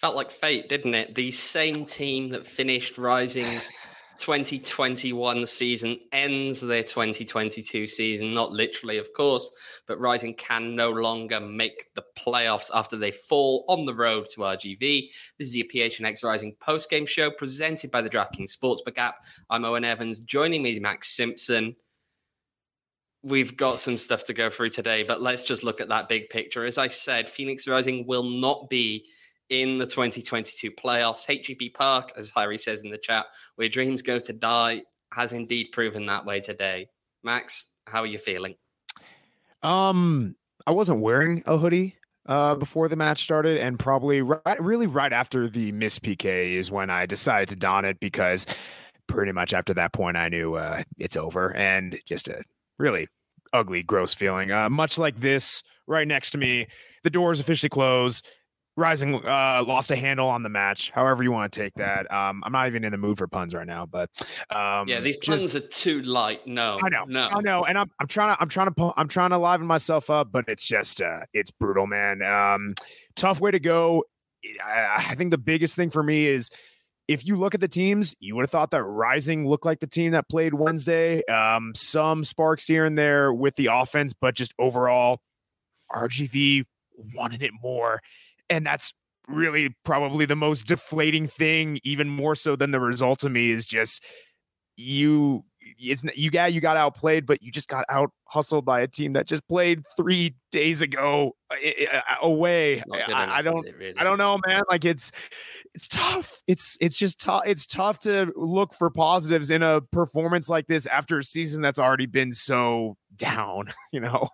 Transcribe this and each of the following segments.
Felt like fate, didn't it? The same team that finished Rising's 2021 season ends their 2022 season. Not literally, of course, but Rising can no longer make the playoffs after they fall on the road to RGV. This is your PHNX Rising post-game show presented by the DraftKings Sportsbook app. I'm Owen Evans. Joining me is Max Simpson. We've got some stuff to go through today, but let's just look at that big picture. As I said, Phoenix Rising will not be in the 2022 playoffs. HEB Park, as Harry says in the chat, where dreams go to die, has indeed proven that way today. Max, how are you feeling? I wasn't wearing a hoodie before the match started, and probably right after the miss PK is when I decided to don it, because pretty much after that point I knew it's over, and just a really ugly, gross feeling. Much like this right next to me, the doors officially close. Rising lost a handle on the match. However you want to take that. I'm not even in the mood for puns right now, but yeah, these puns are too light. No, I know, and I'm trying to liven myself up, but it's just it's brutal, man. Tough way to go. I think the biggest thing for me is, if you look at the teams, you would have thought that Rising looked like the team that played Wednesday. Some sparks here and there with the offense, but just overall, RGV wanted it more. And that's really probably the most deflating thing, even more so than the result to me, is just you got outplayed, but you just got out hustled by a team that just played 3 days ago away. I don't know, man. Like it's tough. It's just tough. It's tough to look for positives in a performance like this after a season that's already been so down, you know?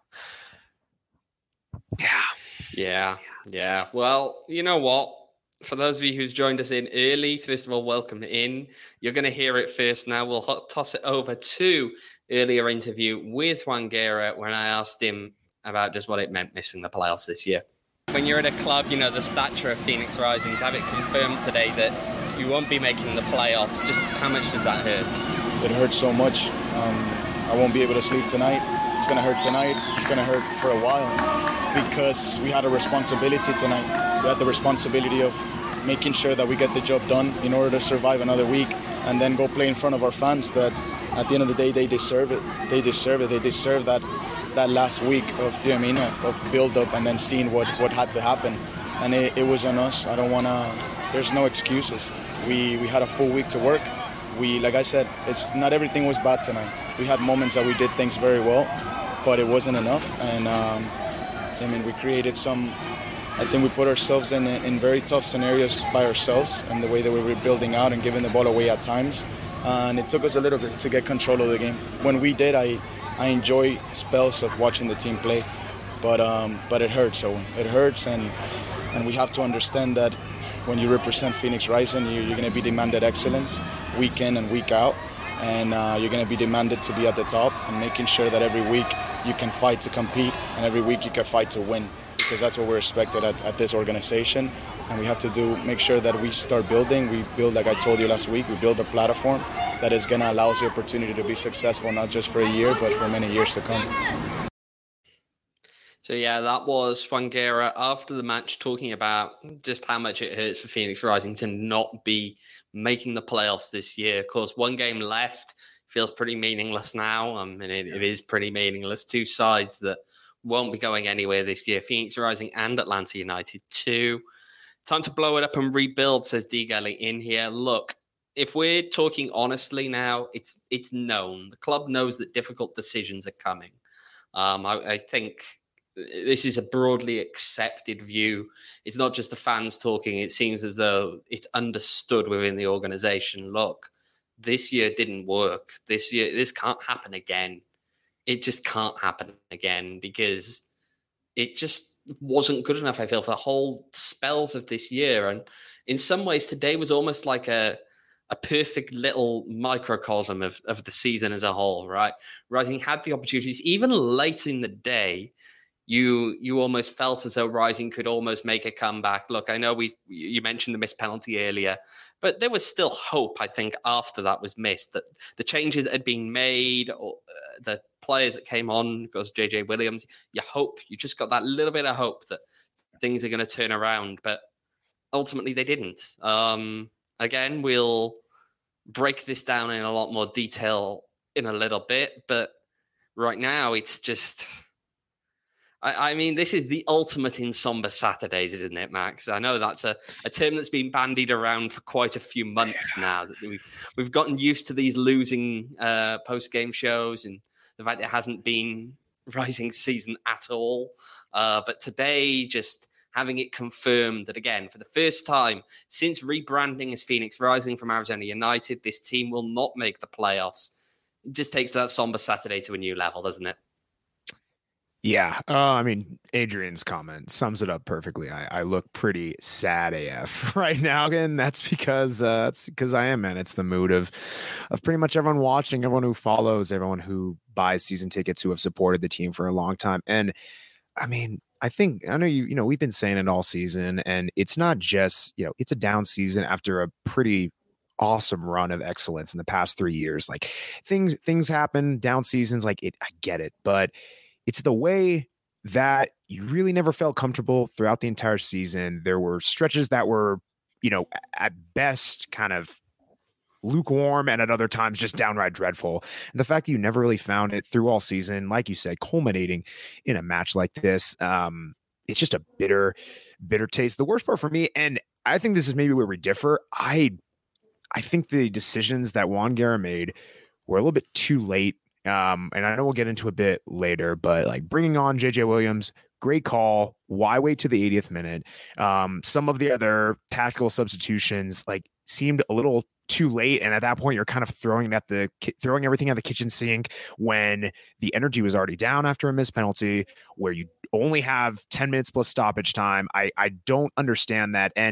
Yeah. Well, you know what? For those of you who's joined us in early, first of all, welcome in. You're going to hear it first now. We'll toss it over to earlier interview with Juan Guerra when I asked him about just what it meant missing the playoffs this year. When you're at a club, you know, the stature of Phoenix Rising, to have it confirmed today that you won't be making the playoffs, just how much does that hurt? It hurts so much. I won't be able to sleep tonight. It's going to hurt tonight. It's going to hurt for a while, because we had a responsibility tonight. We had the responsibility of making sure that we get the job done in order to survive another week and then go play in front of our fans that at the end of the day, they deserve it. They deserve it. They deserve that last week of, you know what I mean, of build-up and then seeing what had to happen. And it was on us. I don't want to, there's no excuses. We had a full week to work. Like I said, it's not everything was bad tonight. We had moments that we did things very well, but it wasn't enough. And I mean, we created I think we put ourselves in very tough scenarios by ourselves, and the way that we were building out and giving the ball away at times. And it took us a little bit to get control of the game. When we did, I enjoy spells of watching the team play, but it hurts. So it hurts, and we have to understand that when you represent Phoenix Rising, you're going to be demanded excellence week in and week out, and you're going to be demanded to be at the top and making sure that every week you can fight to compete and every week you can fight to win, because that's what we're expected at this organization. And we have to make sure that we start building. We build, like I told you last week, we build a platform that is going to allow us the opportunity to be successful, not just for a year, but for many years to come. So, yeah, that was Juan Guerra after the match talking about just how much it hurts for Phoenix Rising to not be making the playoffs this year. Of course, one game left feels pretty meaningless now. I mean, it is pretty meaningless. Two sides that won't be going anywhere this year, Phoenix Rising and Atlanta United 2. Time to blow it up and rebuild, says D. Gully in here. Look, if we're talking honestly now, it's known. The club knows that difficult decisions are coming. I think this is a broadly accepted view. It's not just the fans talking. It seems as though it's understood within the organization. Look, this year didn't work. This year, this can't happen again. It just can't happen again because it just wasn't good enough, I feel, for the whole spells of this year. And in some ways, today was almost like a perfect little microcosm of the season as a whole, right? Rising had the opportunities, even late in the day, you almost felt as though Rising could almost make a comeback. Look, I know you mentioned the missed penalty earlier, but there was still hope, I think, after that was missed, that the changes that had been made, or the players that came on, because JJ Williams, you just got that little bit of hope that things are going to turn around. But ultimately they didn't. Again, we'll break this down in a lot more detail in a little bit, but right now it's just... I mean, this is the ultimate in somber Saturdays, isn't it, Max? I know that's a term that's been bandied around for quite a few months now. That we've gotten used to these losing post-game shows and the fact it hasn't been Rising season at all. But today, just having it confirmed that, again, for the first time since rebranding as Phoenix Rising from Arizona United, this team will not make the playoffs. It just takes that somber Saturday to a new level, doesn't it? Yeah. I mean, Adrian's comment sums it up perfectly. I look pretty sad AF right now. And that's because I am, man. It's the mood of pretty much everyone watching, everyone who follows, everyone who buys season tickets, who have supported the team for a long time. And I mean, I know we've been saying it all season, and it's not just, it's a down season after a pretty awesome run of excellence in the past 3 years. Like things happen, down seasons, like I get it, but it's the way that you really never felt comfortable throughout the entire season. There were stretches that were, at best kind of lukewarm and at other times just downright dreadful. And the fact that you never really found it through all season, like you said, culminating in a match like this, it's just a bitter taste. The worst part for me, and I think this is maybe where we differ, I think the decisions that Juan Guerra made were a little bit too late. And I know we'll get into a bit later, but like bringing on JJ Williams, great call. Why wait to the 80th minute? Some of the other tactical substitutions like seemed a little too late, and at that point, you're kind of throwing everything at the kitchen sink when the energy was already down after a missed penalty, where you only have 10 minutes plus stoppage time. I don't understand that, and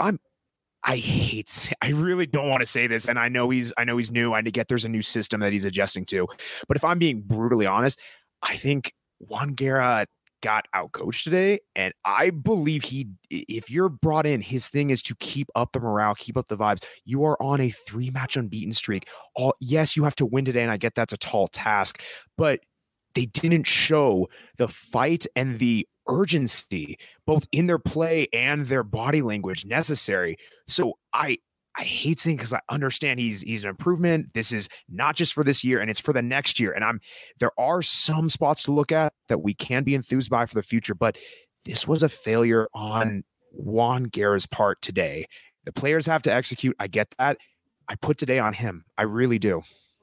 I really don't want to say this, and I know he's new. I get there's a new system that he's adjusting to, but if I'm being brutally honest, I think Juan Guerra got outcoached today, and I believe if you're brought in, his thing is to keep up the morale, keep up the vibes. You are on a 3-match unbeaten streak. Yes, you have to win today, and I get that's a tall task, but they didn't show the fight and the urgency, both in their play and their body language necessary. So I hate saying, because I understand he's an improvement. This is not just for this year, and it's for the next year. And there are some spots to look at that we can be enthused by for the future, but this was a failure on Juan Guerra's part today. The players have to execute. I get that. I put today on him. I really do.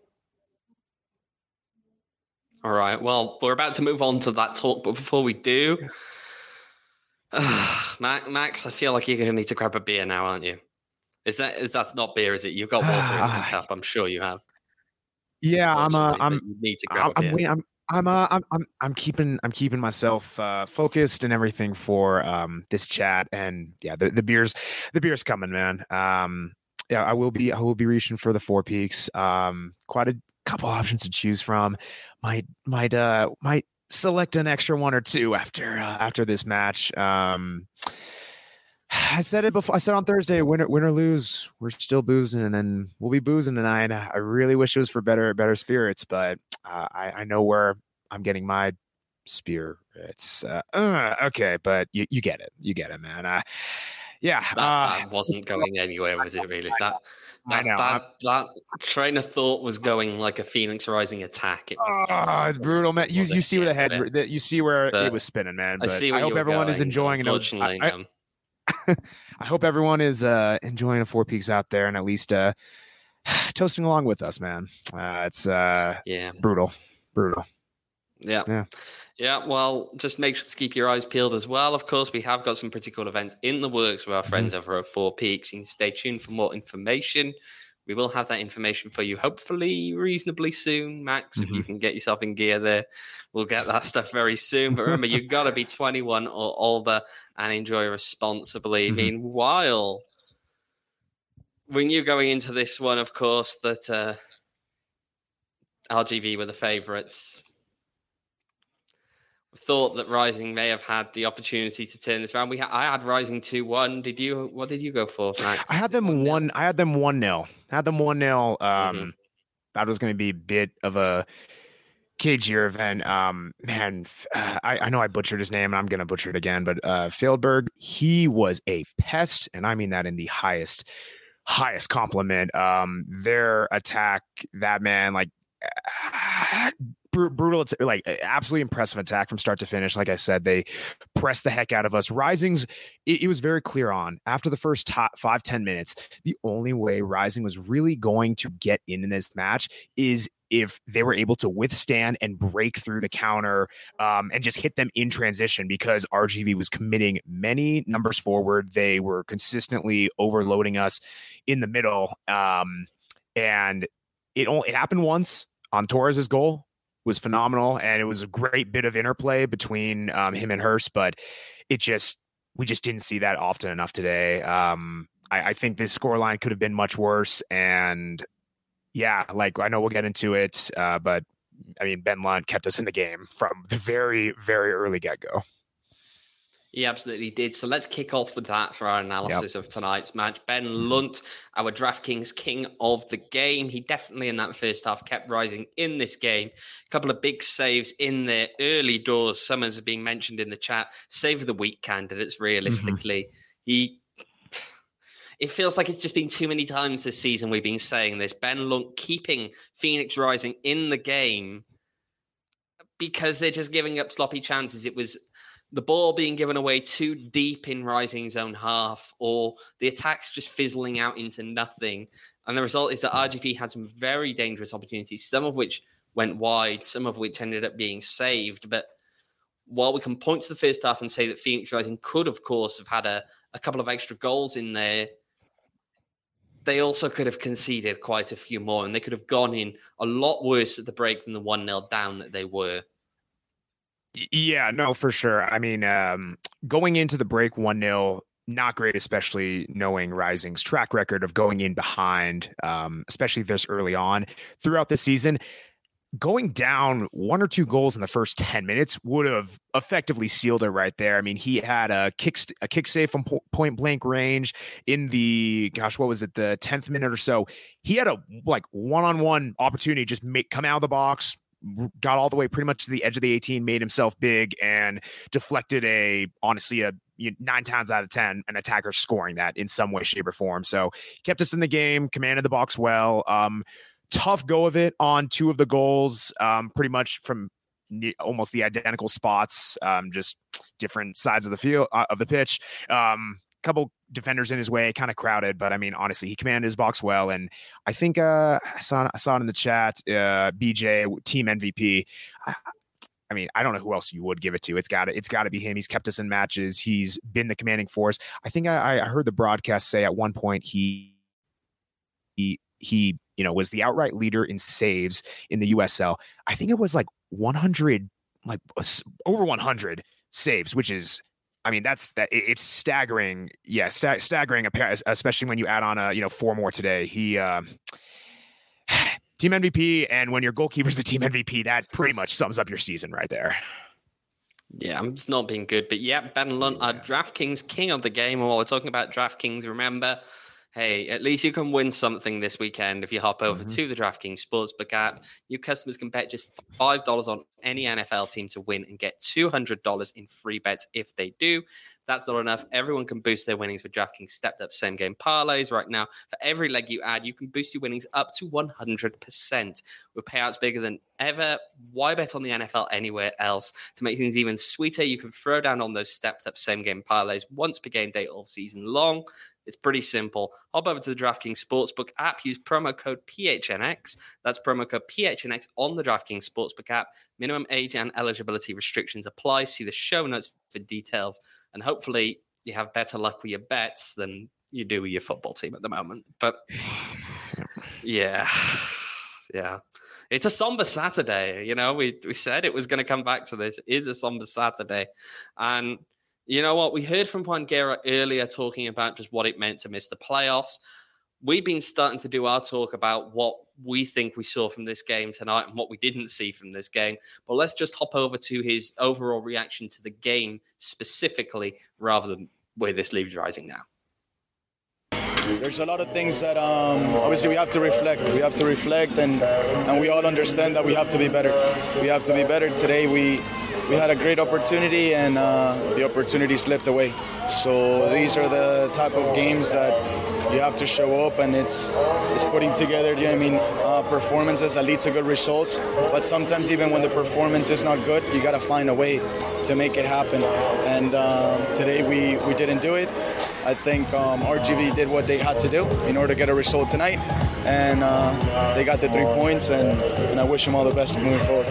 All right. Well, we're about to move on to that talk, but before we do, Max, I feel like you're going to need to grab a beer now, aren't you? Is that not beer? Is it? You've got water in that cup. I'm sure you have. Yeah, you need to grab a beer. I'm keeping myself focused and everything for this chat, and yeah, the beer's coming, man. Yeah, I will be reaching for the Four Peaks. Quite a couple options to choose from. Might select an extra one or two after this match. I said it before. I said on Thursday, win or lose, we're still boozing, and then we'll be boozing tonight. I really wish it was for better spirits, but I know where I'm getting my spirits. Okay, but you get it, man. Yeah, that wasn't going anywhere, was it? Really? That train of thought was going like a Phoenix Rising attack. It's brutal, man. You see where the heads were. You see where it was spinning, man. But I hope everyone is enjoying it. Unfortunately, I hope everyone is enjoying the Four Peaks out there and at least toasting along with us, man. It's brutal. Yeah, well, just make sure to keep your eyes peeled as well. Of course, we have got some pretty cool events in the works with our friends over at Four Peaks. You can stay tuned for more information. We will have that information for you, hopefully reasonably soon, Max. If you can get yourself in gear there, we'll get that stuff very soon. But remember, you've got to be 21 or older and enjoy responsibly. Meanwhile, we knew going into this one, of course, that LGV were the favourites. Thought that Rising may have had the opportunity to turn this around. I had Rising 2-1. What did you go for, Max? I had them 1-0. I had them 1-0. That was going to be a bit of a KG event. I know I butchered his name and I'm going to butcher it again, but Feldberg, he was a pest. And I mean that in the highest compliment. Their attack, that man, like brutal, like absolutely impressive attack from start to finish. Like I said, they pressed the heck out of us. Rising's, it was very clear on after the first 5-10 minutes, the only way Rising was really going to get in this match is if they were able to withstand and break through the counter and just hit them in transition, because RGV was committing many numbers forward. They were consistently overloading us in the middle. And it happened once on Torres's goal. Was phenomenal, and it was a great bit of interplay between him and Hurst, but we just didn't see that often enough today. I think this scoreline could have been much worse, and yeah, like I know we'll get into it, but I mean, Ben Lunt kept us in the game from the very, very early get-go. He absolutely did. So let's kick off with that for our analysis of tonight's match. Ben Lunt, our DraftKings king of the game. He definitely in that first half kept Rising in this game. A couple of big saves in the early doors. Summers are being mentioned in the chat. Save of the week candidates, realistically. It feels like it's just been too many times this season we've been saying this. Ben Lunt keeping Phoenix Rising in the game because they're just giving up sloppy chances. It was the ball being given away too deep in Rising's own half, or the attacks just fizzling out into nothing. And the result is that RGV had some very dangerous opportunities, some of which went wide, some of which ended up being saved. But while we can point to the first half and say that Phoenix Rising could, of course, have had a couple of extra goals in there, they also could have conceded quite a few more, and they could have gone in a lot worse at the break than the 1-0 down that they were. Yeah, no, for sure. I mean, going into the break 1-0, not great, especially knowing Rising's track record of going in behind, especially this early on throughout the season. Going down 1 or 2 goals in the first 10 minutes would have effectively sealed it right there. I mean, he had a kick save from point blank range in the, what was it, the 10th minute or so. He had a one-on-one opportunity, just come out of the box, got all the way pretty much to the edge of the 18, made himself big, and deflected honestly 9 times out of 10 an attacker scoring that in some way, shape, or form. So he kept us in the game, commanded the box well. Tough go of it on 2 of the goals, pretty much from almost the identical spots, just different sides of the field, of the pitch. Couple defenders in his way, kind of crowded, but I mean, honestly, he commanded his box well. And I think I saw it in the chat, BJ, team MVP. I mean, I don't know who else you would give it to. It's got to be him. He's kept us in matches. He's been the commanding force. I think I heard the broadcast say at one point he was the outright leader in saves in the USL. I think it was like 100, like over 100 saves, which is, I mean, it's staggering. Yeah, staggering, especially when you add on 4 more today. He team MVP, and when your goalkeeper's the team MVP, that pretty much sums up your season right there. Yeah, it's not been good, but yeah, Ben Lunt, our DraftKings king of the game. And while we're talking about DraftKings, remember, hey, at least you can win something this weekend if you hop over to the DraftKings Sportsbook app. New customers can bet just $5 on any NFL team to win and get $200 in free bets if they do. That's not enough. Everyone can boost their winnings with DraftKings stepped up same game parlays right now. For every leg you add, you can boost your winnings up to 100%. With payouts bigger than ever, why bet on the NFL anywhere else? To make things even sweeter, you can throw down on those stepped up same game parlays once per game day all season long. It's pretty simple. Hop over to the DraftKings Sportsbook app. Use promo code PHNX. That's promo code PHNX on the DraftKings Sportsbook app. Minimum age and eligibility restrictions apply. See the show notes for details. And hopefully you have better luck with your bets than you do with your football team at the moment. But yeah. It's a somber Saturday. We said it was going to come back to this. It is a somber Saturday. And you know what? We heard from Juan Guerra earlier talking about just what it meant to miss the playoffs. We've been starting to do our talk about what we think we saw from this game tonight and what we didn't see from this game. But let's just hop over to his overall reaction to the game specifically, rather than where this leaves Rising now. there's a lot of things that obviously we have to reflect. We have to reflect, and we all understand that we have to be better. We have to be better. Today we had a great opportunity, and the opportunity slipped away. So these are the type of games that you have to show up, and it's putting together, you know what I mean, performances that lead to good results. But sometimes even when the performance is not good, you got to find a way to make it happen. And today we didn't do it. I think RGV did what they had to do in order to get a result tonight, and they got the 3 points, and I wish them all the best moving forward.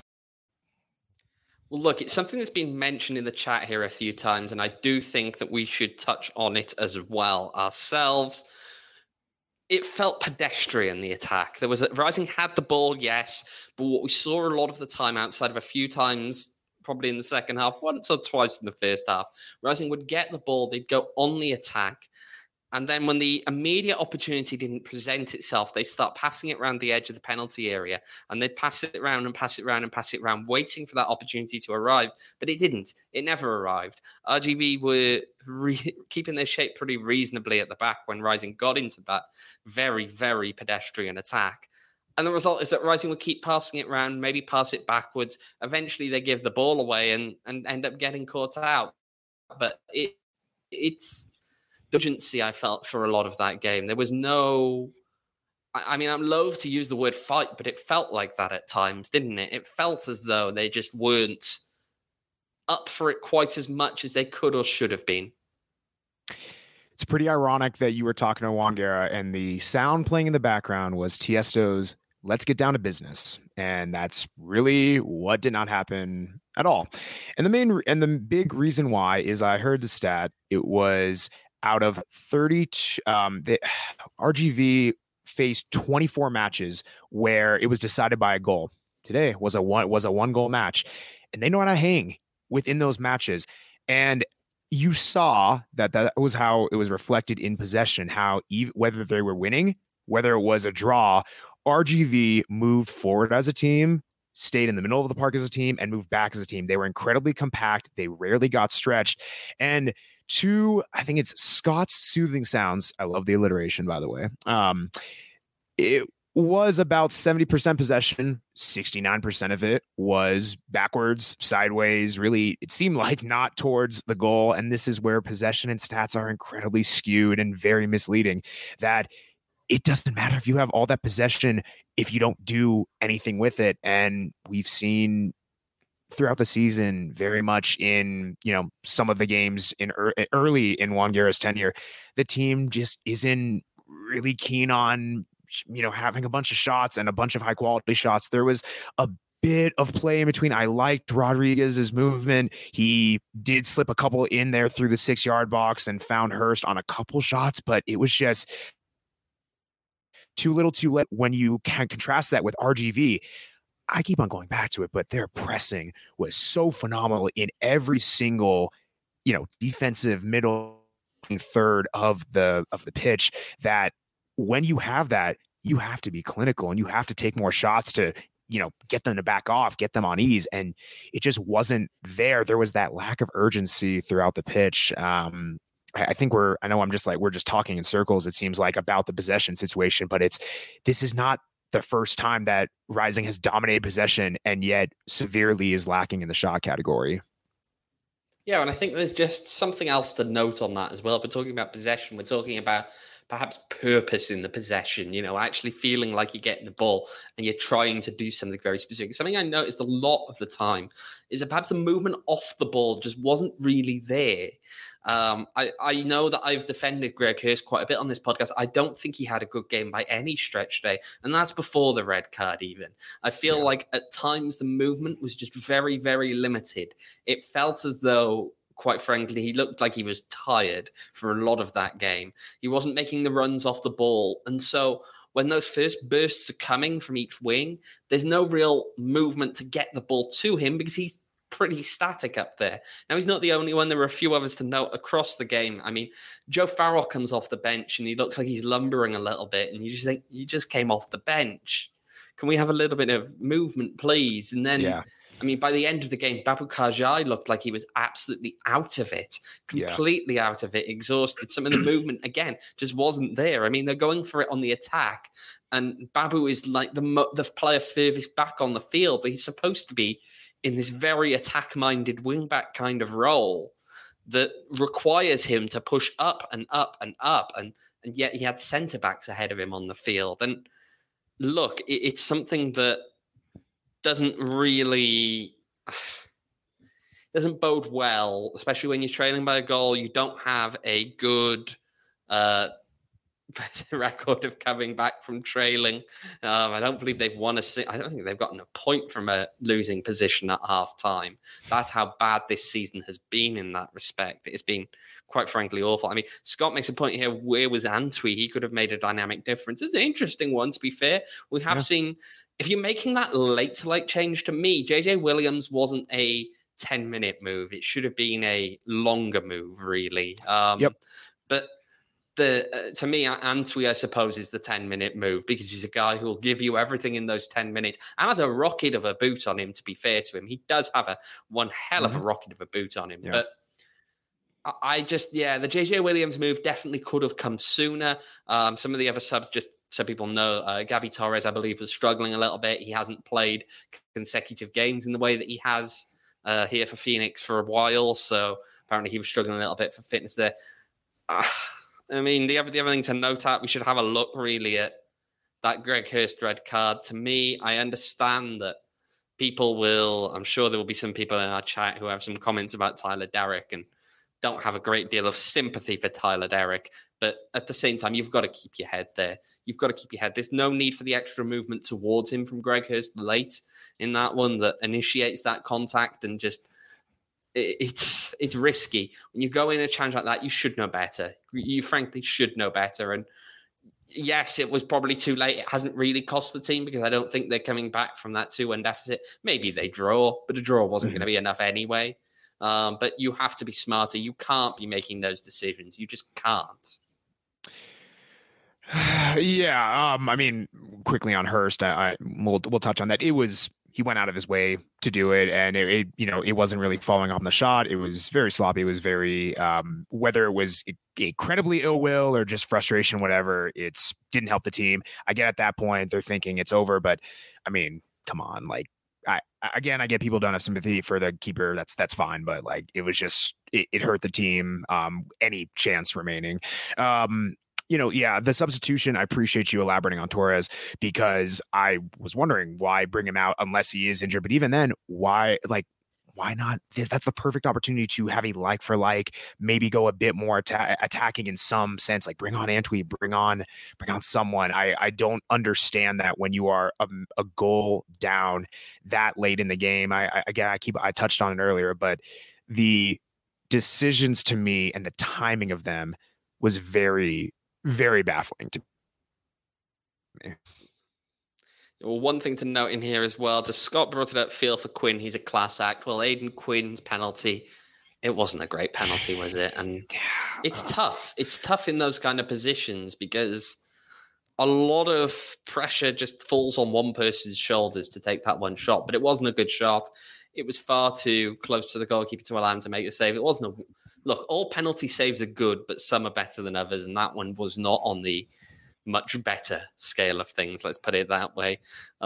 Well, look, it's something that's been mentioned in the chat here a few times, and I do think that we should touch on it as well ourselves. It felt pedestrian, the attack. Rising had the ball, yes, but what we saw a lot of the time, outside of a few times, probably in the second half, once or twice in the first half, Rising would get the ball, they'd go on the attack, and then when the immediate opportunity didn't present itself, they start passing it around the edge of the penalty area, and they'd pass it around and pass it around and pass it around, waiting for that opportunity to arrive. But it didn't. It never arrived. RGV were keeping their shape pretty reasonably at the back when Rising got into that very, very pedestrian attack. And the result is that Rising would keep passing it around, maybe pass it backwards. Eventually, they give the ball away and end up getting caught out. But it's urgency, I felt, for a lot of that game. There was no... I mean, I'm loath to use the word fight, but it felt like that at times, didn't it? It felt as though they just weren't up for it quite as much as they could or should have been. It's pretty ironic that you were talking to Juan Guerra and the sound playing in the background was Tiesto's "Let's Get Down to Business." And that's really what did not happen at all. And the big reason why is I heard the stat. It was out of 30, the RGV faced 24 matches where it was decided by a goal. Today was a one goal match, and they know how to hang within those matches. And you saw that was how it was reflected in possession, how whether they were winning, whether it was a draw, RGV moved forward as a team, stayed in the middle of the park as a team, and moved back as a team. They were incredibly compact. They rarely got stretched. And I think it's Scott's soothing sounds. I love the alliteration, by the way. It was about 70% possession. 69% of it was backwards, sideways. Really, it seemed like not towards the goal. And this is where possession and stats are incredibly skewed and very misleading. That it doesn't matter if you have all that possession if you don't do anything with it. And we've seen throughout the season, very much in, some of the games in early in Juan Guerra's tenure, the team just isn't really keen on, having a bunch of shots and a bunch of high quality shots. There was a bit of play in between. I liked Rodriguez's movement. He did slip a couple in there through the 6-yard box and found Hurst on a couple shots, but it was just too little too late. When you can contrast that with RGV, I keep on going back to it, but their pressing was so phenomenal in every single, defensive middle and third of the pitch, that when you have that, you have to be clinical and you have to take more shots to, get them to back off, get them on ease. And it just wasn't there. There was that lack of urgency throughout the pitch. I think we're just talking in circles, it seems like, about the possession situation, but this is not the first time that Rising has dominated possession and yet severely is lacking in the shot category. Yeah, and I think there's just something else to note on that as well. We're talking about possession. We're talking about perhaps purpose in the possession, actually feeling like you're getting the ball and you're trying to do something very specific. Something I noticed a lot of the time is that perhaps the movement off the ball just wasn't really there. I know that I've defended Greg Hurst quite a bit on this podcast. I don't think he had a good game by any stretch today, and that's before the red card even. I feel like at times the movement was just very, very limited. It felt as though, quite frankly, he looked like he was tired for a lot of that game. He wasn't making the runs off the ball, and so when those first bursts are coming from each wing, there's no real movement to get the ball to him because he's pretty static up there. Now, he's not the only one. There were a few others to note across the game. I mean, Joe Farrell comes off the bench and he looks like he's lumbering a little bit, and you just think, you just came off the bench. Can we have a little bit of movement, please? And then I mean, by the end of the game, Babu Kajai looked like he was absolutely out of it, completely out of it, exhausted. Some of the movement, again, just wasn't there. I mean, they're going for it on the attack, and Babu is like the player furthest back on the field, but he's supposed to be in this very attack-minded wing-back kind of role that requires him to push up and up and up, and yet he had centre-backs ahead of him on the field. And look, it's something that doesn't bode well, especially when you're trailing by a goal. You don't have a good record of coming back from trailing. I don't believe they've won I don't think they've gotten a point from a losing position at half time. That's how bad this season has been in that respect. It's been quite frankly awful. I mean, Scott makes a point here. Where was Antwi? He could have made a dynamic difference. It's an interesting one, to be fair. We have seen, if you're making that late change, to me, JJ Williams wasn't a 10-minute move. It should have been a longer move, really. But to me, Antwi, I suppose, is the 10-minute move, because he's a guy who will give you everything in those 10 minutes and has a rocket of a boot on him, to be fair to him. He does have one hell of a rocket of a boot on him. But the JJ Williams move definitely could have come sooner. Some of the other subs, just so people know, Gabby Torres, I believe, was struggling a little bit. He hasn't played consecutive games in the way that he has here for Phoenix for a while. So apparently he was struggling a little bit for fitness there. I mean, the other thing to note out, we should have a look really at that Greg Hurst red card. To me, I understand that I'm sure there will be some people in our chat who have some comments about Tyler Derrick and don't have a great deal of sympathy for Tyler Derrick. But at the same time, you've got to keep your head there. You've got to keep your head. There's no need for the extra movement towards him from Greg Hurst late in that one that initiates that contact, and just it's risky. When you go in a challenge like that, you should know better. You frankly should know better. And yes, it was probably too late. It hasn't really cost the team, because I don't think they're coming back from that 2-1 deficit. Maybe they draw, but a draw wasn't going to be enough anyway. But you have to be smarter. You can't be making those decisions. You just can't. I mean, quickly on Hurst, we'll touch on that. He went out of his way to do it, and it wasn't really following on the shot. It was very sloppy. It was very, whether it was incredibly ill will or just frustration, whatever, it didn't help the team. I get at that point they're thinking it's over, but I mean, come on, like, I get people don't have sympathy for the keeper. That's fine, but like, it was just it hurt the team. Any chance remaining. The substitution, I appreciate you elaborating on Torres, because I was wondering why bring him out unless he is injured. But even then, why not? That's the perfect opportunity to have a like for like, maybe go a bit more attacking in some sense, like bring on Antwi, bring on someone. I don't understand that when you are a goal down that late in the game. I touched on it earlier, but the decisions to me and the timing of them was very, very baffling to me. Well, one thing to note in here as well, just Scott brought it up, feel for Quinn, he's a class act. Well, Aidan Quinn's penalty, it wasn't a great penalty, was it? And it's tough. It's tough in those kind of positions, because a lot of pressure just falls on one person's shoulders to take that one shot. But it wasn't a good shot. It was far too close to the goalkeeper to allow him to make a save. It wasn't look, all penalty saves are good, but some are better than others, and that one was not on the much better scale of things, let's put it that way.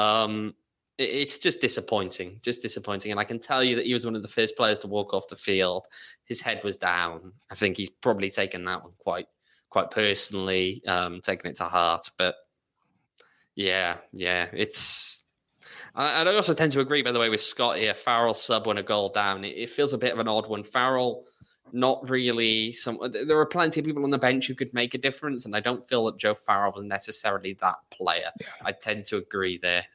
It's just disappointing. And I can tell you that he was one of the first players to walk off the field. His head was down. I think he's probably taken that one quite personally, taken it to heart. But yeah, it's... I also tend to agree, by the way, with Scott here. Farrell sub when a goal down. It feels a bit of an odd one. Farrell, not really. There are plenty of people on the bench who could make a difference, and I don't feel that Joe Farrell was necessarily that player. Yeah. I tend to agree there.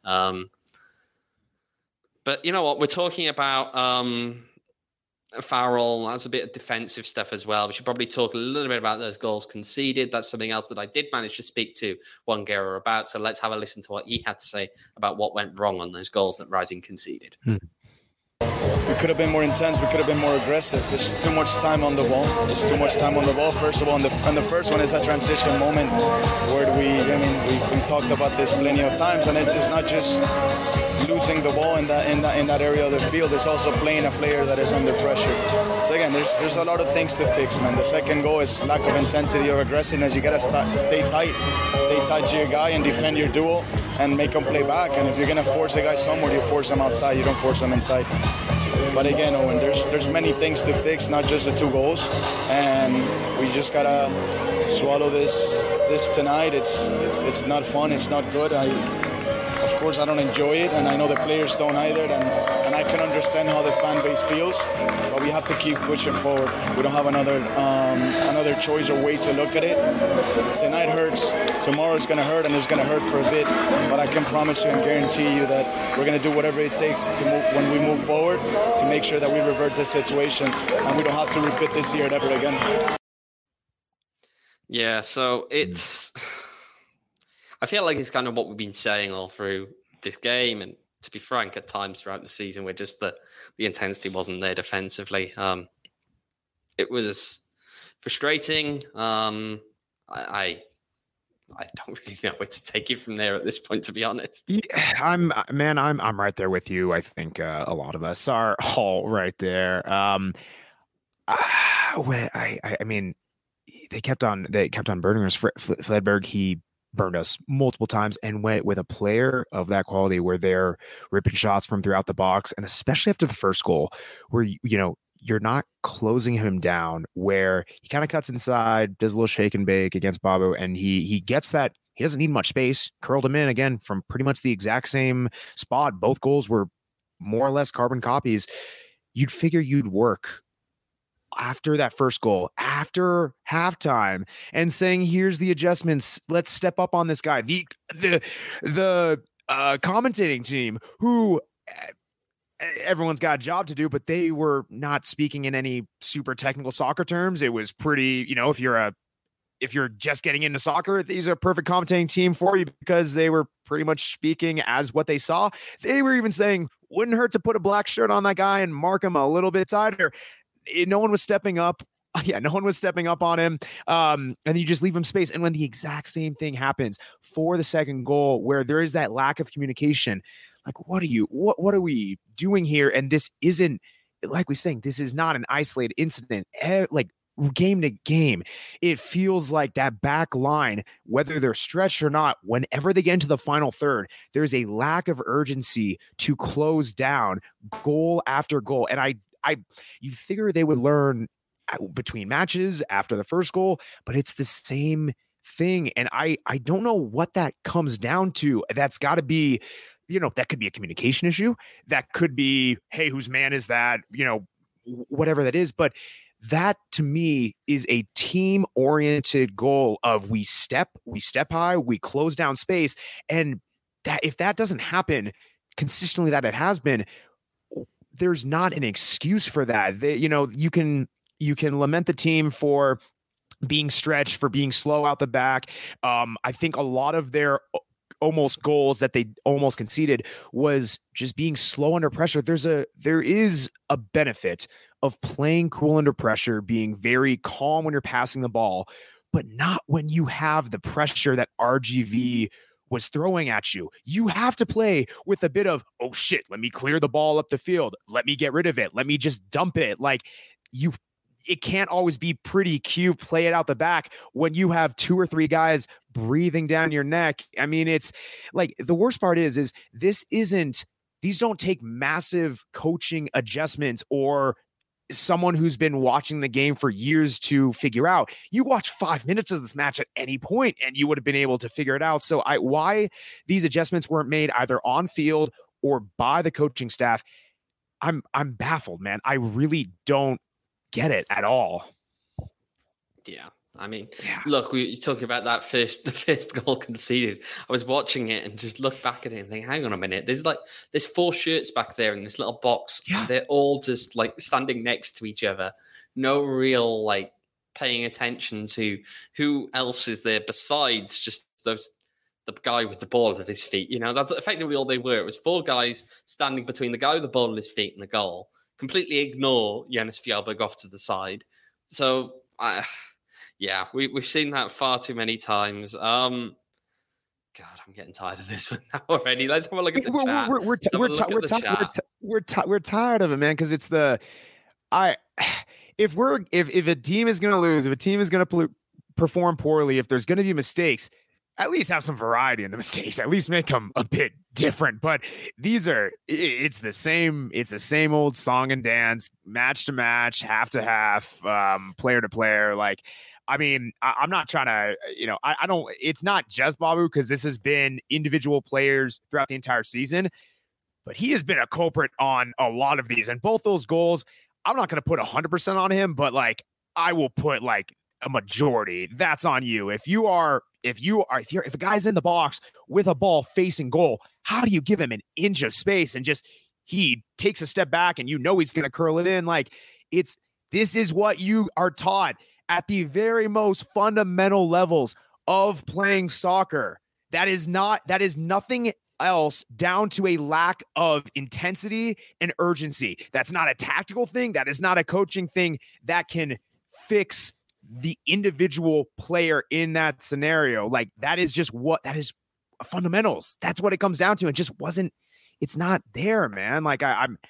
But you know what? We're talking about Farrell. That's a bit of defensive stuff as well. We should probably talk a little bit about those goals conceded. That's something else that I did manage to speak to Wangera about. So let's have a listen to what he had to say about what went wrong on those goals that Rising conceded. we could have been more intense. We could have been more aggressive. There's too much time on the ball. First of all, and the first one is a transition moment where we talked about this plenty of times, and it's not just losing the ball in that area of the field. It's also playing a player that is under pressure. So again, there's a lot of things to fix, man. The second goal is lack of intensity or aggressiveness. You gotta stay tight to your guy and defend your duel and make them play back. And if you're gonna force a guy somewhere, you force him outside. You don't force him inside. But again, Owen, there's many things to fix, not just the 2 goals, and we just gotta swallow this tonight. It's not fun. It's not good. Of course, I don't enjoy it, and I know the players don't either, and I can understand how the fan base feels, but we have to keep pushing forward. We don't have another choice or way to look at it. Tonight hurts. Tomorrow it's going to hurt, and it's going to hurt for a bit, but I can promise you and guarantee you that we're going to do whatever it takes to when we move forward to make sure that we revert this situation, and we don't have to repeat this year ever again. Yeah, so it's... I feel like it's kind of what we've been saying all through this game, and to be frank, at times throughout the season, where just the intensity wasn't there defensively. It was frustrating. I don't really know where to take it from there at this point, to be honest. Yeah, I'm right there with you. I think a lot of us are all right there. I mean, they kept on burning us. Fledberg, he burned us multiple times, and went with a player of that quality where they're ripping shots from throughout the box, and especially after the first goal, where you're not closing him down, where he kind of cuts inside, does a little shake and bake against Babu, and he gets that. He doesn't need much space, curled him in again from pretty much the exact same spot. Both goals were more or less carbon copies. You'd figure you'd work after that first goal, after halftime, and saying, here's the adjustments, let's step up on this guy. The commentating team, who everyone's got a job to do, but they were not speaking in any super technical soccer terms. It was pretty, if you're just getting into soccer, these are a perfect commentating team for you, because they were pretty much speaking as what they saw. They were even saying, wouldn't hurt to put a black shirt on that guy and mark him a little bit tighter. No one was stepping up. Yeah, no one was stepping up on him. And you just leave him space. And when the exact same thing happens for the second goal, where there is that lack of communication, like, what are we doing here? And this isn't, like we're saying, this is not an isolated incident. Like, game to game, it feels like that back line, whether they're stretched or not, whenever they get into the final third, there's a lack of urgency to close down goal after goal. And you figure they would learn between matches after the first goal, but it's the same thing. And I don't know what that comes down to. That's got to be, that could be a communication issue. That could be, hey, whose man is that? Whatever that is. But that, to me, is a team-oriented goal of we step high, we close down space. And that if that doesn't happen consistently, that it has been, there's not an excuse for that. You can lament the team for being stretched, for being slow out the back. I think a lot of their almost goals that they almost conceded was just being slow under pressure. There is a benefit of playing cool under pressure, being very calm when you're passing the ball, but not when you have the pressure that RGV was throwing at you. You have to play with a bit of, oh shit, let me clear the ball up the field. Let me get rid of it. Let me just dump it. It can't always be pretty cute, play it out the back when you have 2 or 3 guys breathing down your neck. I mean, it's like, the worst part is these don't take massive coaching adjustments or someone who's been watching the game for years to figure out. You watch 5 minutes of this match at any point and you would have been able to figure it out. So why these adjustments weren't made either on field or by the coaching staff, I'm baffled, man. I really don't get it at all. Yeah. I mean, Look, you're talking about the first goal conceded. I was watching it and just look back at it and think, hang on a minute. There's 4 shirts back there in this little box. Yeah. They're all just like standing next to each other. No real like paying attention to who else is there besides just the guy with the ball at his feet. That's effectively all they were. It was 4 guys standing between the guy with the ball at his feet and the goal. completely ignore Jonas Fjällberg off to the side. So, we've seen that far too many times. God, I'm getting tired of this one now already. Let's have a look at the chat. We're tired of it, man, because it's if a team is going to lose, if a team is going to perform poorly, if there's going to be mistakes, at least have some variety in the mistakes. At least make them a bit different. But it's the same old song and dance, match to match, half to half, player to player. Like, I mean, I'm not trying to, I don't. It's not just Babu, because this has been individual players throughout the entire season, but he has been a culprit on a lot of these. And both those goals, I'm not going to put 100% on him, but like I will put like a majority. That's on you. If a guy's in the box with a ball facing goal, how do you give him an inch of space and just he takes a step back and he's going to curl it in? Like, this is what you are taught at the very most fundamental levels of playing soccer. That is nothing else down to a lack of intensity and urgency. That's not a tactical thing. That is not a coaching thing that can fix the individual player in that scenario. Like, that is fundamentals. That's what it comes down to. It just it's not there, man. Like I'm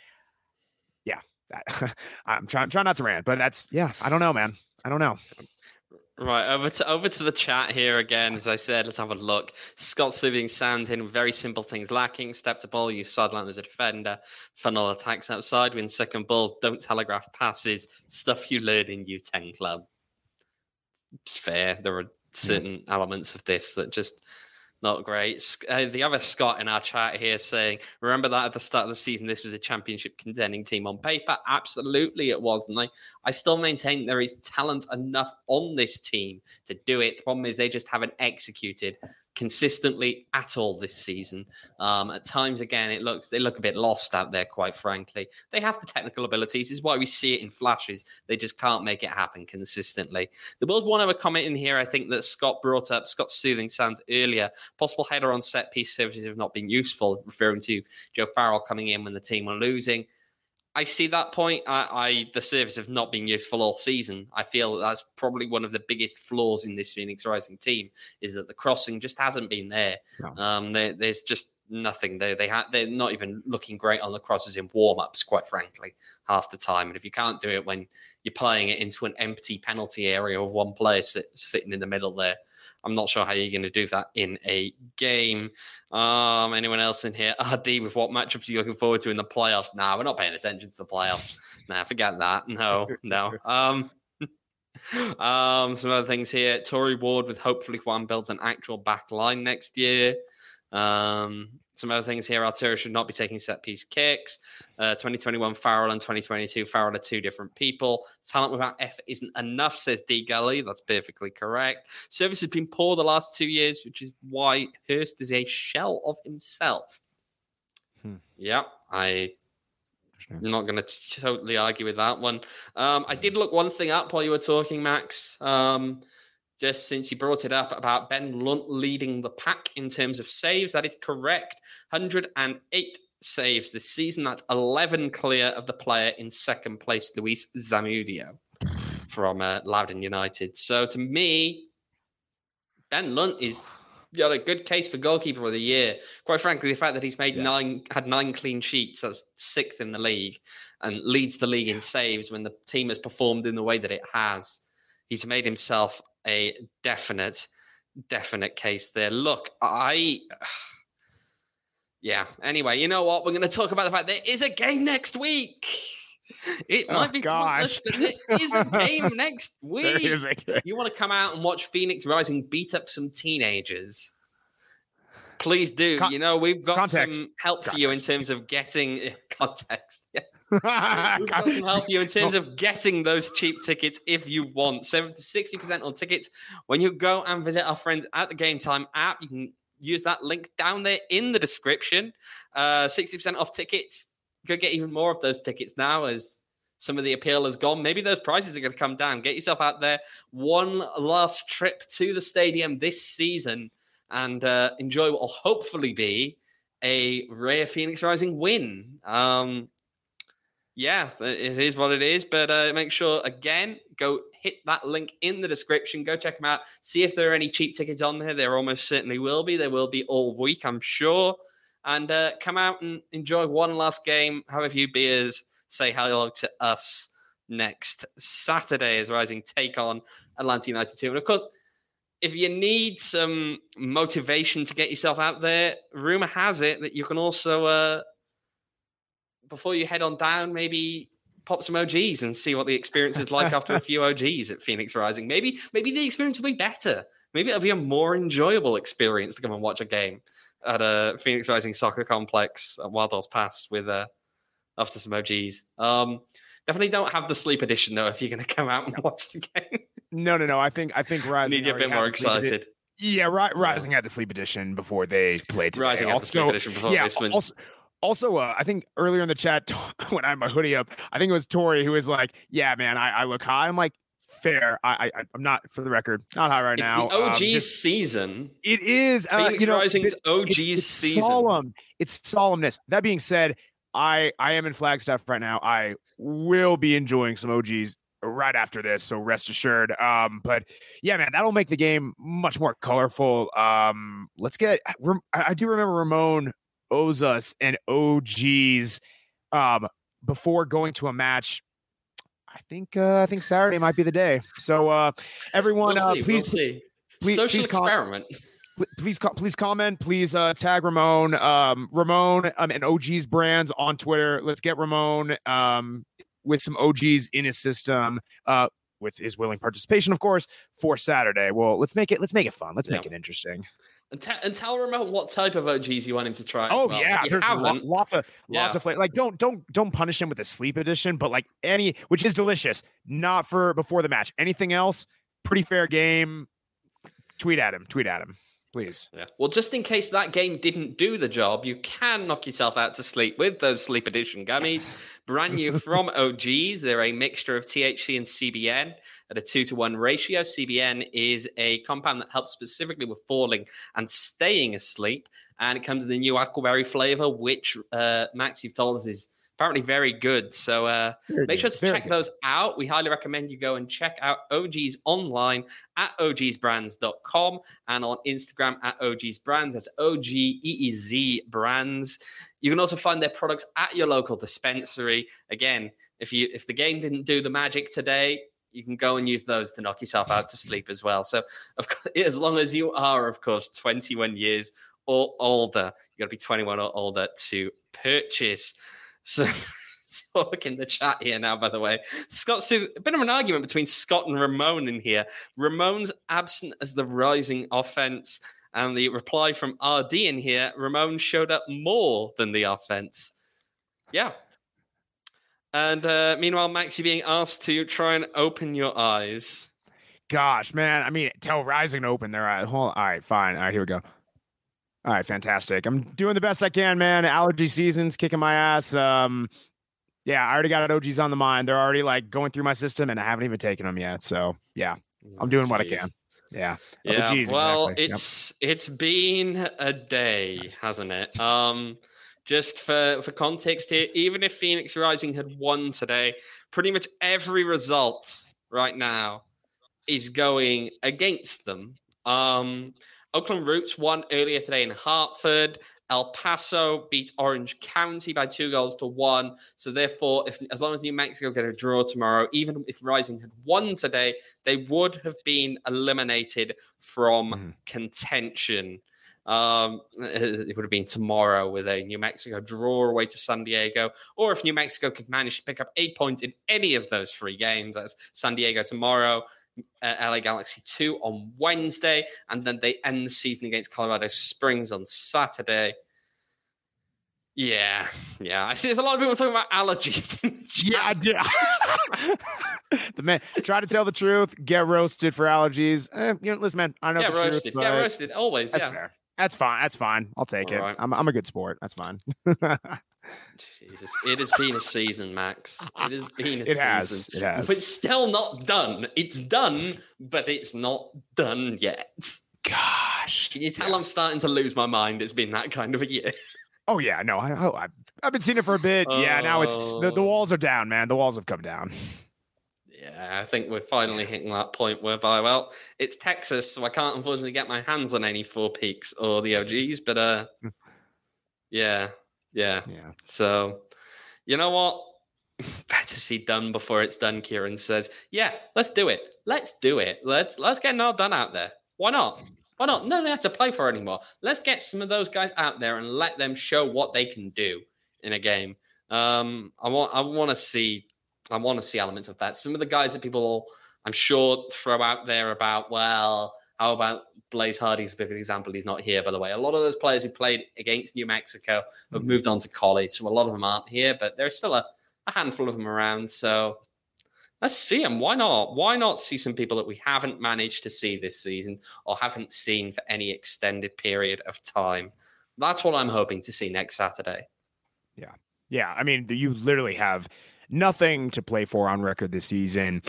trying not to rant, but I don't know, man. I don't know. Right, over to the chat here again. As I said, let's have a look. Scott Soothing Sound in very simple things lacking. Step to ball, use sideline as a defender. Funnel attacks outside, win second balls, don't telegraph passes. Stuff you learn in U10 club. It's fair. There are certain elements of this that just not great. The other Scott in our chat here saying, remember that at the start of the season, this was a championship contending team on paper? Absolutely it was. And I still maintain there is talent enough on this team to do it. The problem is they just haven't executed consistently at all this season. At times, again, they look a bit lost out there, quite frankly. They have the technical abilities. This is why we see it in flashes. They just can't make it happen consistently. There was one other comment in here, I think, that Scott brought up, Scott Soothing Sounds earlier. Possible header on set piece services have not been useful, referring to Joe Farrell coming in when the team were losing. I see that point. The service have not been useful all season. I feel that's probably one of the biggest flaws in this Phoenix Rising team, is that the crossing just hasn't been there. No. There's just nothing there. They're not even looking great on the crosses in warm-ups, quite frankly, half the time. And if you can't do it when you're playing it into an empty penalty area of one player sitting in the middle there, I'm not sure how you're going to do that in a game. Anyone else in here? RD, with what matchups are you looking forward to in the playoffs? Nah, we're not paying attention to the playoffs. Nah, forget that. No. Some other things here. Tory Ward with hopefully Juan builds an actual back line next year. Some other things here. Altera should not be taking set piece kicks. 2021 Farrell and 2022 Farrell are two different people. Talent without effort isn't enough, says D Gully. That's perfectly correct. Service has been poor the last 2 years, which is why Hurst is a shell of himself. Yeah, I'm not going to totally argue with that one. I did look one thing up while you were talking, Max. Just since you brought it up about Ben Lunt leading the pack in terms of saves, that is correct. 108 saves this season. That's 11 clear of the player in second place, Luis Zamudio, from Loudoun United. So to me, Ben Lunt is got a good case for goalkeeper of the year. Quite frankly, the fact that he's had 9 clean sheets, that's 6th in the league, and leads the league in saves when the team has performed in the way that it has. He's made himself a definite case there. Look, anyway, you know what? We're going to talk about the fact there is a game next week. It might be pointless, but there is a game next week. You want to come out and watch Phoenix Rising beat up some teenagers? Please do. We've got some help for you in terms of getting context. We've got some help for you in terms of getting those cheap tickets if you want. 70 to 60% on tickets when you go and visit our friends at the Game Time app. You can use that link down there in the description. 60% off tickets. You could get even more of those tickets now as some of the appeal has gone. Maybe those prices are going to come down. Get yourself out there. One last trip to the stadium this season and enjoy what will hopefully be a rare Phoenix Rising win. Yeah, it is what it is. But make sure, again, go hit that link in the description. Go check them out. See if there are any cheap tickets on there. There almost certainly will be. There will be all week, I'm sure. And come out and enjoy one last game, have a few beers, say hello to us next Saturday as Rising take on Atlanta United 2. And of course, if you need some motivation to get yourself out there, rumor has it that you can also, before you head on down, maybe pop some OGs and see what the experience is like after a few OGs at Phoenix Rising. Maybe the experience will be better. Maybe it'll be a more enjoyable experience to come and watch a game at a Phoenix Rising Soccer Complex at Wild Horse Pass with after some OGs. Definitely don't have the sleep edition though if you're going to come out and watch the game. No. I think Rising need you a bit more excited. Yeah, Rising had the sleep edition before they played today. Rising had the sleep edition before this one. Also, I think earlier in the chat when I had my hoodie up, I think it was Tori who was like, "Yeah, man, I look high." I'm like, "Fair. I'm not, for the record, not high right now." It's the OG season. It is. Phoenix Rising's OG season. Solemn. It's solemnness. That being said, I am in Flagstaff right now. I will be enjoying some OGs right after this, so rest assured. But yeah, man, that'll make the game much more colorful. Let's get. I do remember Ramon owes us an OGs before going to a match. I think Saturday might be the day. So everyone, please see. Social experiment. Please comment. Please tag Ramon. Ramon and OGs brands on Twitter. Let's get Ramon with some OGs in his system. With his willing participation, of course, for Saturday. Well, let's make it fun. Let's make it interesting. And tell Ramon what type of OGs you want him to try. Oh yeah, there's lots of flavor. Like don't punish him with the sleep edition, but like which is delicious. Not for before the match. Anything else? Pretty fair game. Tweet at him, please. Yeah. Well, just in case that game didn't do the job, you can knock yourself out to sleep with those sleep edition gummies. Brand new from OGs. They're a mixture of THC and CBN at a 2-to-1 ratio. CBN is a compound that helps specifically with falling and staying asleep. And it comes in the new aquaberry flavor, which Max, you've told us is apparently very good. So make sure to check those out. We highly recommend you go and check out OGs online at ogsbrands.com and on Instagram at ogsbrands. That's OGEEZ brands. You can also find their products at your local dispensary. Again, if the game didn't do the magic today, you can go and use those to knock yourself out to sleep as well. So of course, as long as you are, of course, 21 years or older, you got to be 21 or older to purchase. So, talk in the chat here now, by the way. Scott's a bit of an argument between Scott and Ramon in here. Ramon's absent as the rising offense. And the reply from RD in here, Ramon showed up more than the offense. Yeah. And meanwhile, Max, you're being asked to try and open your eyes. Gosh, man. I mean, tell Rising to open their eyes. All right, fine. All right, here we go. All right, fantastic. I'm doing the best I can, man. Allergy season's kicking my ass. Yeah, I already got OGs on the mind. They're already like going through my system, and I haven't even taken them yet. So yeah, I'm doing what I can. Yeah. Yeah. OGs, well, exactly. it's been a day, hasn't it? Just for context here, even if Phoenix Rising had won today, pretty much every result right now is going against them. Oakland Roots won earlier today in Hartford. El Paso beat Orange County by 2-1. So therefore, as long as New Mexico get a draw tomorrow, even if Rising had won today, they would have been eliminated from contention. It would have been tomorrow with a New Mexico draw away to San Diego, or if New Mexico could manage to pick up 8 points in any of those 3 games, that's San Diego tomorrow, LA Galaxy 2 on Wednesday, and then they end the season against Colorado Springs on Saturday. Yeah. I see there's a lot of people talking about allergies. Yeah, I did. The man, try to tell the truth, get roasted for allergies. Listen, man, I know get the roasted. truth. Get roasted, always. That's fair. That's fine. I'll take it. Right. I'm a good sport. That's fine. Jesus, it has been a season, Max. It has been a season. It has. But it's still not done. It's done, but it's not done yet. Gosh. Can you tell I'm starting to lose my mind? It's been that kind of a year. Oh yeah, no, I've been seeing it for a bit. Yeah, now it's the walls are down, man. The walls have come down. Yeah, I think we're finally hitting that point whereby, well, it's Texas, so I can't unfortunately get my hands on any Four Peaks or the OGs, but yeah. So, you know what? Better see done before it's done, Kieran says. Yeah, let's do it. Let's get Nard Dunn out there. Why not? No, they have to play for it anymore. Let's get some of those guys out there and let them show what they can do in a game. I want to see elements of that. Some of the guys that people, I'm sure, throw out there about, well, how about Blaze Hardy's a big example? He's not here, by the way. A lot of those players who played against New Mexico have moved on to college, so a lot of them aren't here, but there's still a handful of them around. So let's see them. Why not? Why not see some people that we haven't managed to see this season or haven't seen for any extended period of time? That's what I'm hoping to see next Saturday. Yeah. I mean, you literally have nothing to play for on record this season.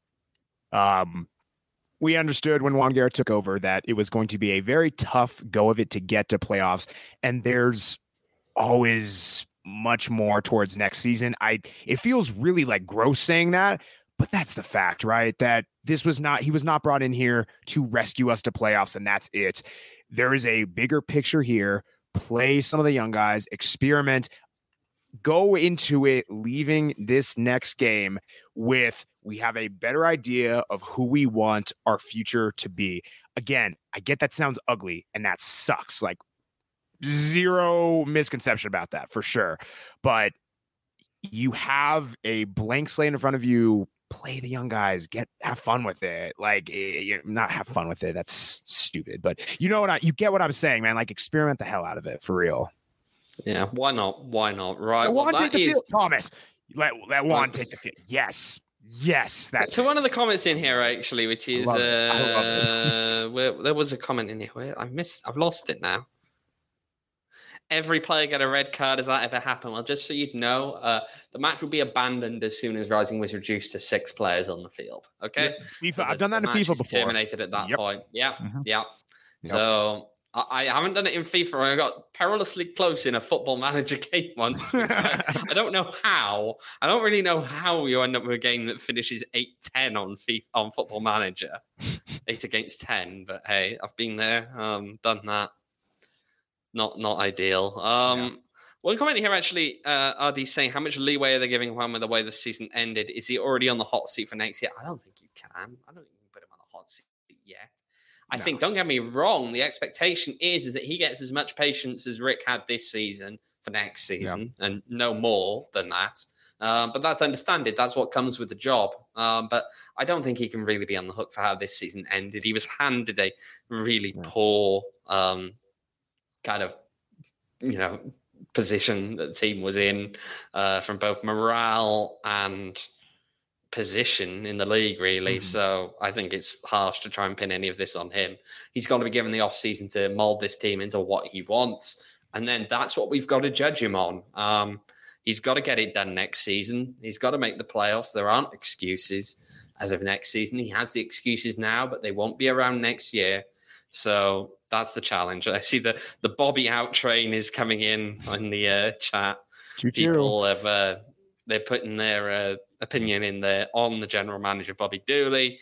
We understood when Juan Guerra took over that it was going to be a very tough go of it to get to playoffs, and there's always much more towards next season. It feels really like gross saying that, but that's the fact, right? That he was not brought in here to rescue us to playoffs, and that's it. There is a bigger picture here. Play some of the young guys, experiment, go into it, leaving this next game with, we have a better idea of who we want our future to be. Again, I get that sounds ugly and that sucks. Like, zero misconception about that for sure. But you have a blank slate in front of you. Play the young guys, have fun with it. Like, not have fun with it. That's stupid. But you get what I'm saying, man. Like, experiment the hell out of it for real. Yeah, why not? Right. Juan take the field, Thomas. Let Juan take the field. Yes. That's so. One of the comments in here actually, which is where there was a comment in here where I've lost it now. Every player get a red card. Has that ever happened? Well, just so you'd know, the match will be abandoned as soon as Rising was reduced to 6 players on the field. Okay, FIFA. I've done that in FIFA before. Terminated at that point. Yeah. So I haven't done it in FIFA. I got perilously close in a Football Manager game once. I don't know how. I don't really know how you end up with a game that finishes 8-10 on Football Manager, 8 against 10. But hey, I've been there, done that. Not ideal. One comment here actually, RD saying, how much leeway are they giving Juan with the way the season ended? Is he already on the hot seat for next year? I don't think you can. I don't think you can put him on the hot seat yet. I think, don't get me wrong, the expectation is that he gets as much patience as Rick had this season for next season, and no more than that. But that's understandable. That's what comes with the job. But I don't think he can really be on the hook for how this season ended. He was handed a really poor kind of, position that the team was in from both morale and position in the league, really. So I think it's harsh to try and pin any of this on him. He's got to be given the offseason to mold this team into what he wants. And then that's what we've got to judge him on. He's got to get it done next season. He's got to make the playoffs. There aren't excuses as of next season. He has the excuses now, but they won't be around next year. So that's the challenge. I see the Bobby out train is coming in on the chat. People have they're putting their opinion in there on the general manager, Bobby Dooley.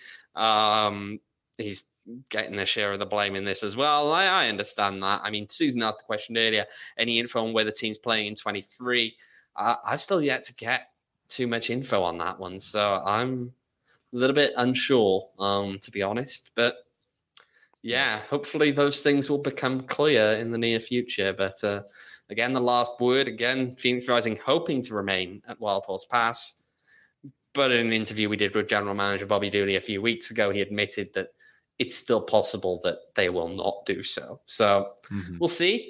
He's getting their share of the blame in this as well. I understand that. I mean, Susan asked the question earlier, any info on where the team's playing in 23? I've still yet to get too much info on that one. So I'm a little bit unsure, to be honest. But yeah, hopefully those things will become clear in the near future. But again, the last word, Phoenix Rising hoping to remain at Wild Horse Pass. But in an interview we did with General Manager Bobby Dooley a few weeks ago, he admitted that it's still possible that they will not do so. So we'll see.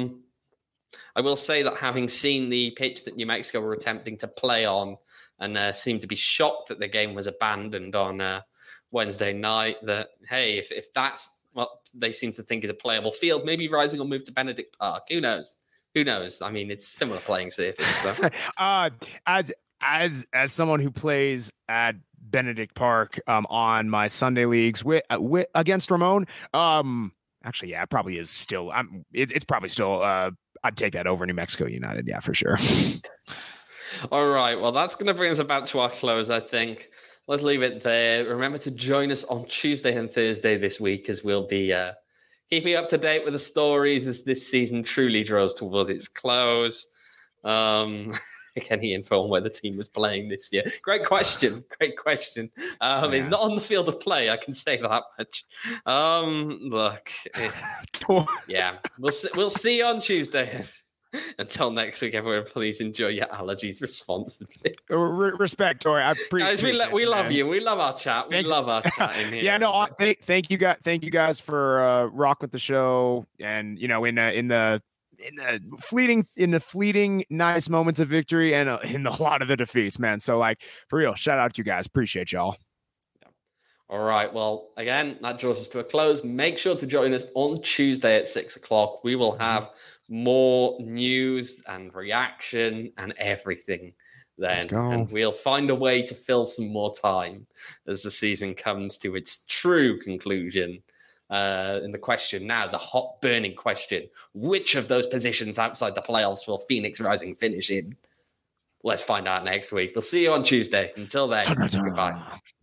I will say that having seen the pitch that New Mexico were attempting to play on and seemed to be shocked that the game was abandoned on Wednesday night, that, hey, if that's what they seem to think is a playable field, maybe Rising will move to Benedict Park. Who knows? I mean, it's similar playing surface. So. As someone who plays at Benedict Park on my Sunday leagues against Ramon, actually, yeah, it probably is still. It's probably still I'd take that over New Mexico United. Yeah, for sure. All right. Well, that's going to bring us about to our close, I think. Let's leave it there. Remember to join us on Tuesday and Thursday this week, as we'll be keeping up to date with the stories as this season truly draws towards its close. Any info on where the team was playing this year? Great question. It's not on the field of play, I can say that much. Look, yeah, we'll see you on Tuesday. Until next week, everyone, please enjoy your allergies responsibly. Respect, Tori. I appreciate Guys, we love you. We love our chat. Thanks. We love our chat in here. Yeah, no, thank you guys for rocking with the show, and in the fleeting nice moments of victory and in a lot of the defeats, man. So like for real, shout out to you guys. Appreciate y'all. All right. Well, again, that draws us to a close. Make sure to join us on Tuesday at 6:00. We will have more news and reaction and everything then. And we'll find a way to fill some more time as the season comes to its true conclusion. In the question now, the hot burning question, which of those positions outside the playoffs will Phoenix Rising finish in? Let's find out next week. We'll see you on Tuesday. Until then, goodbye.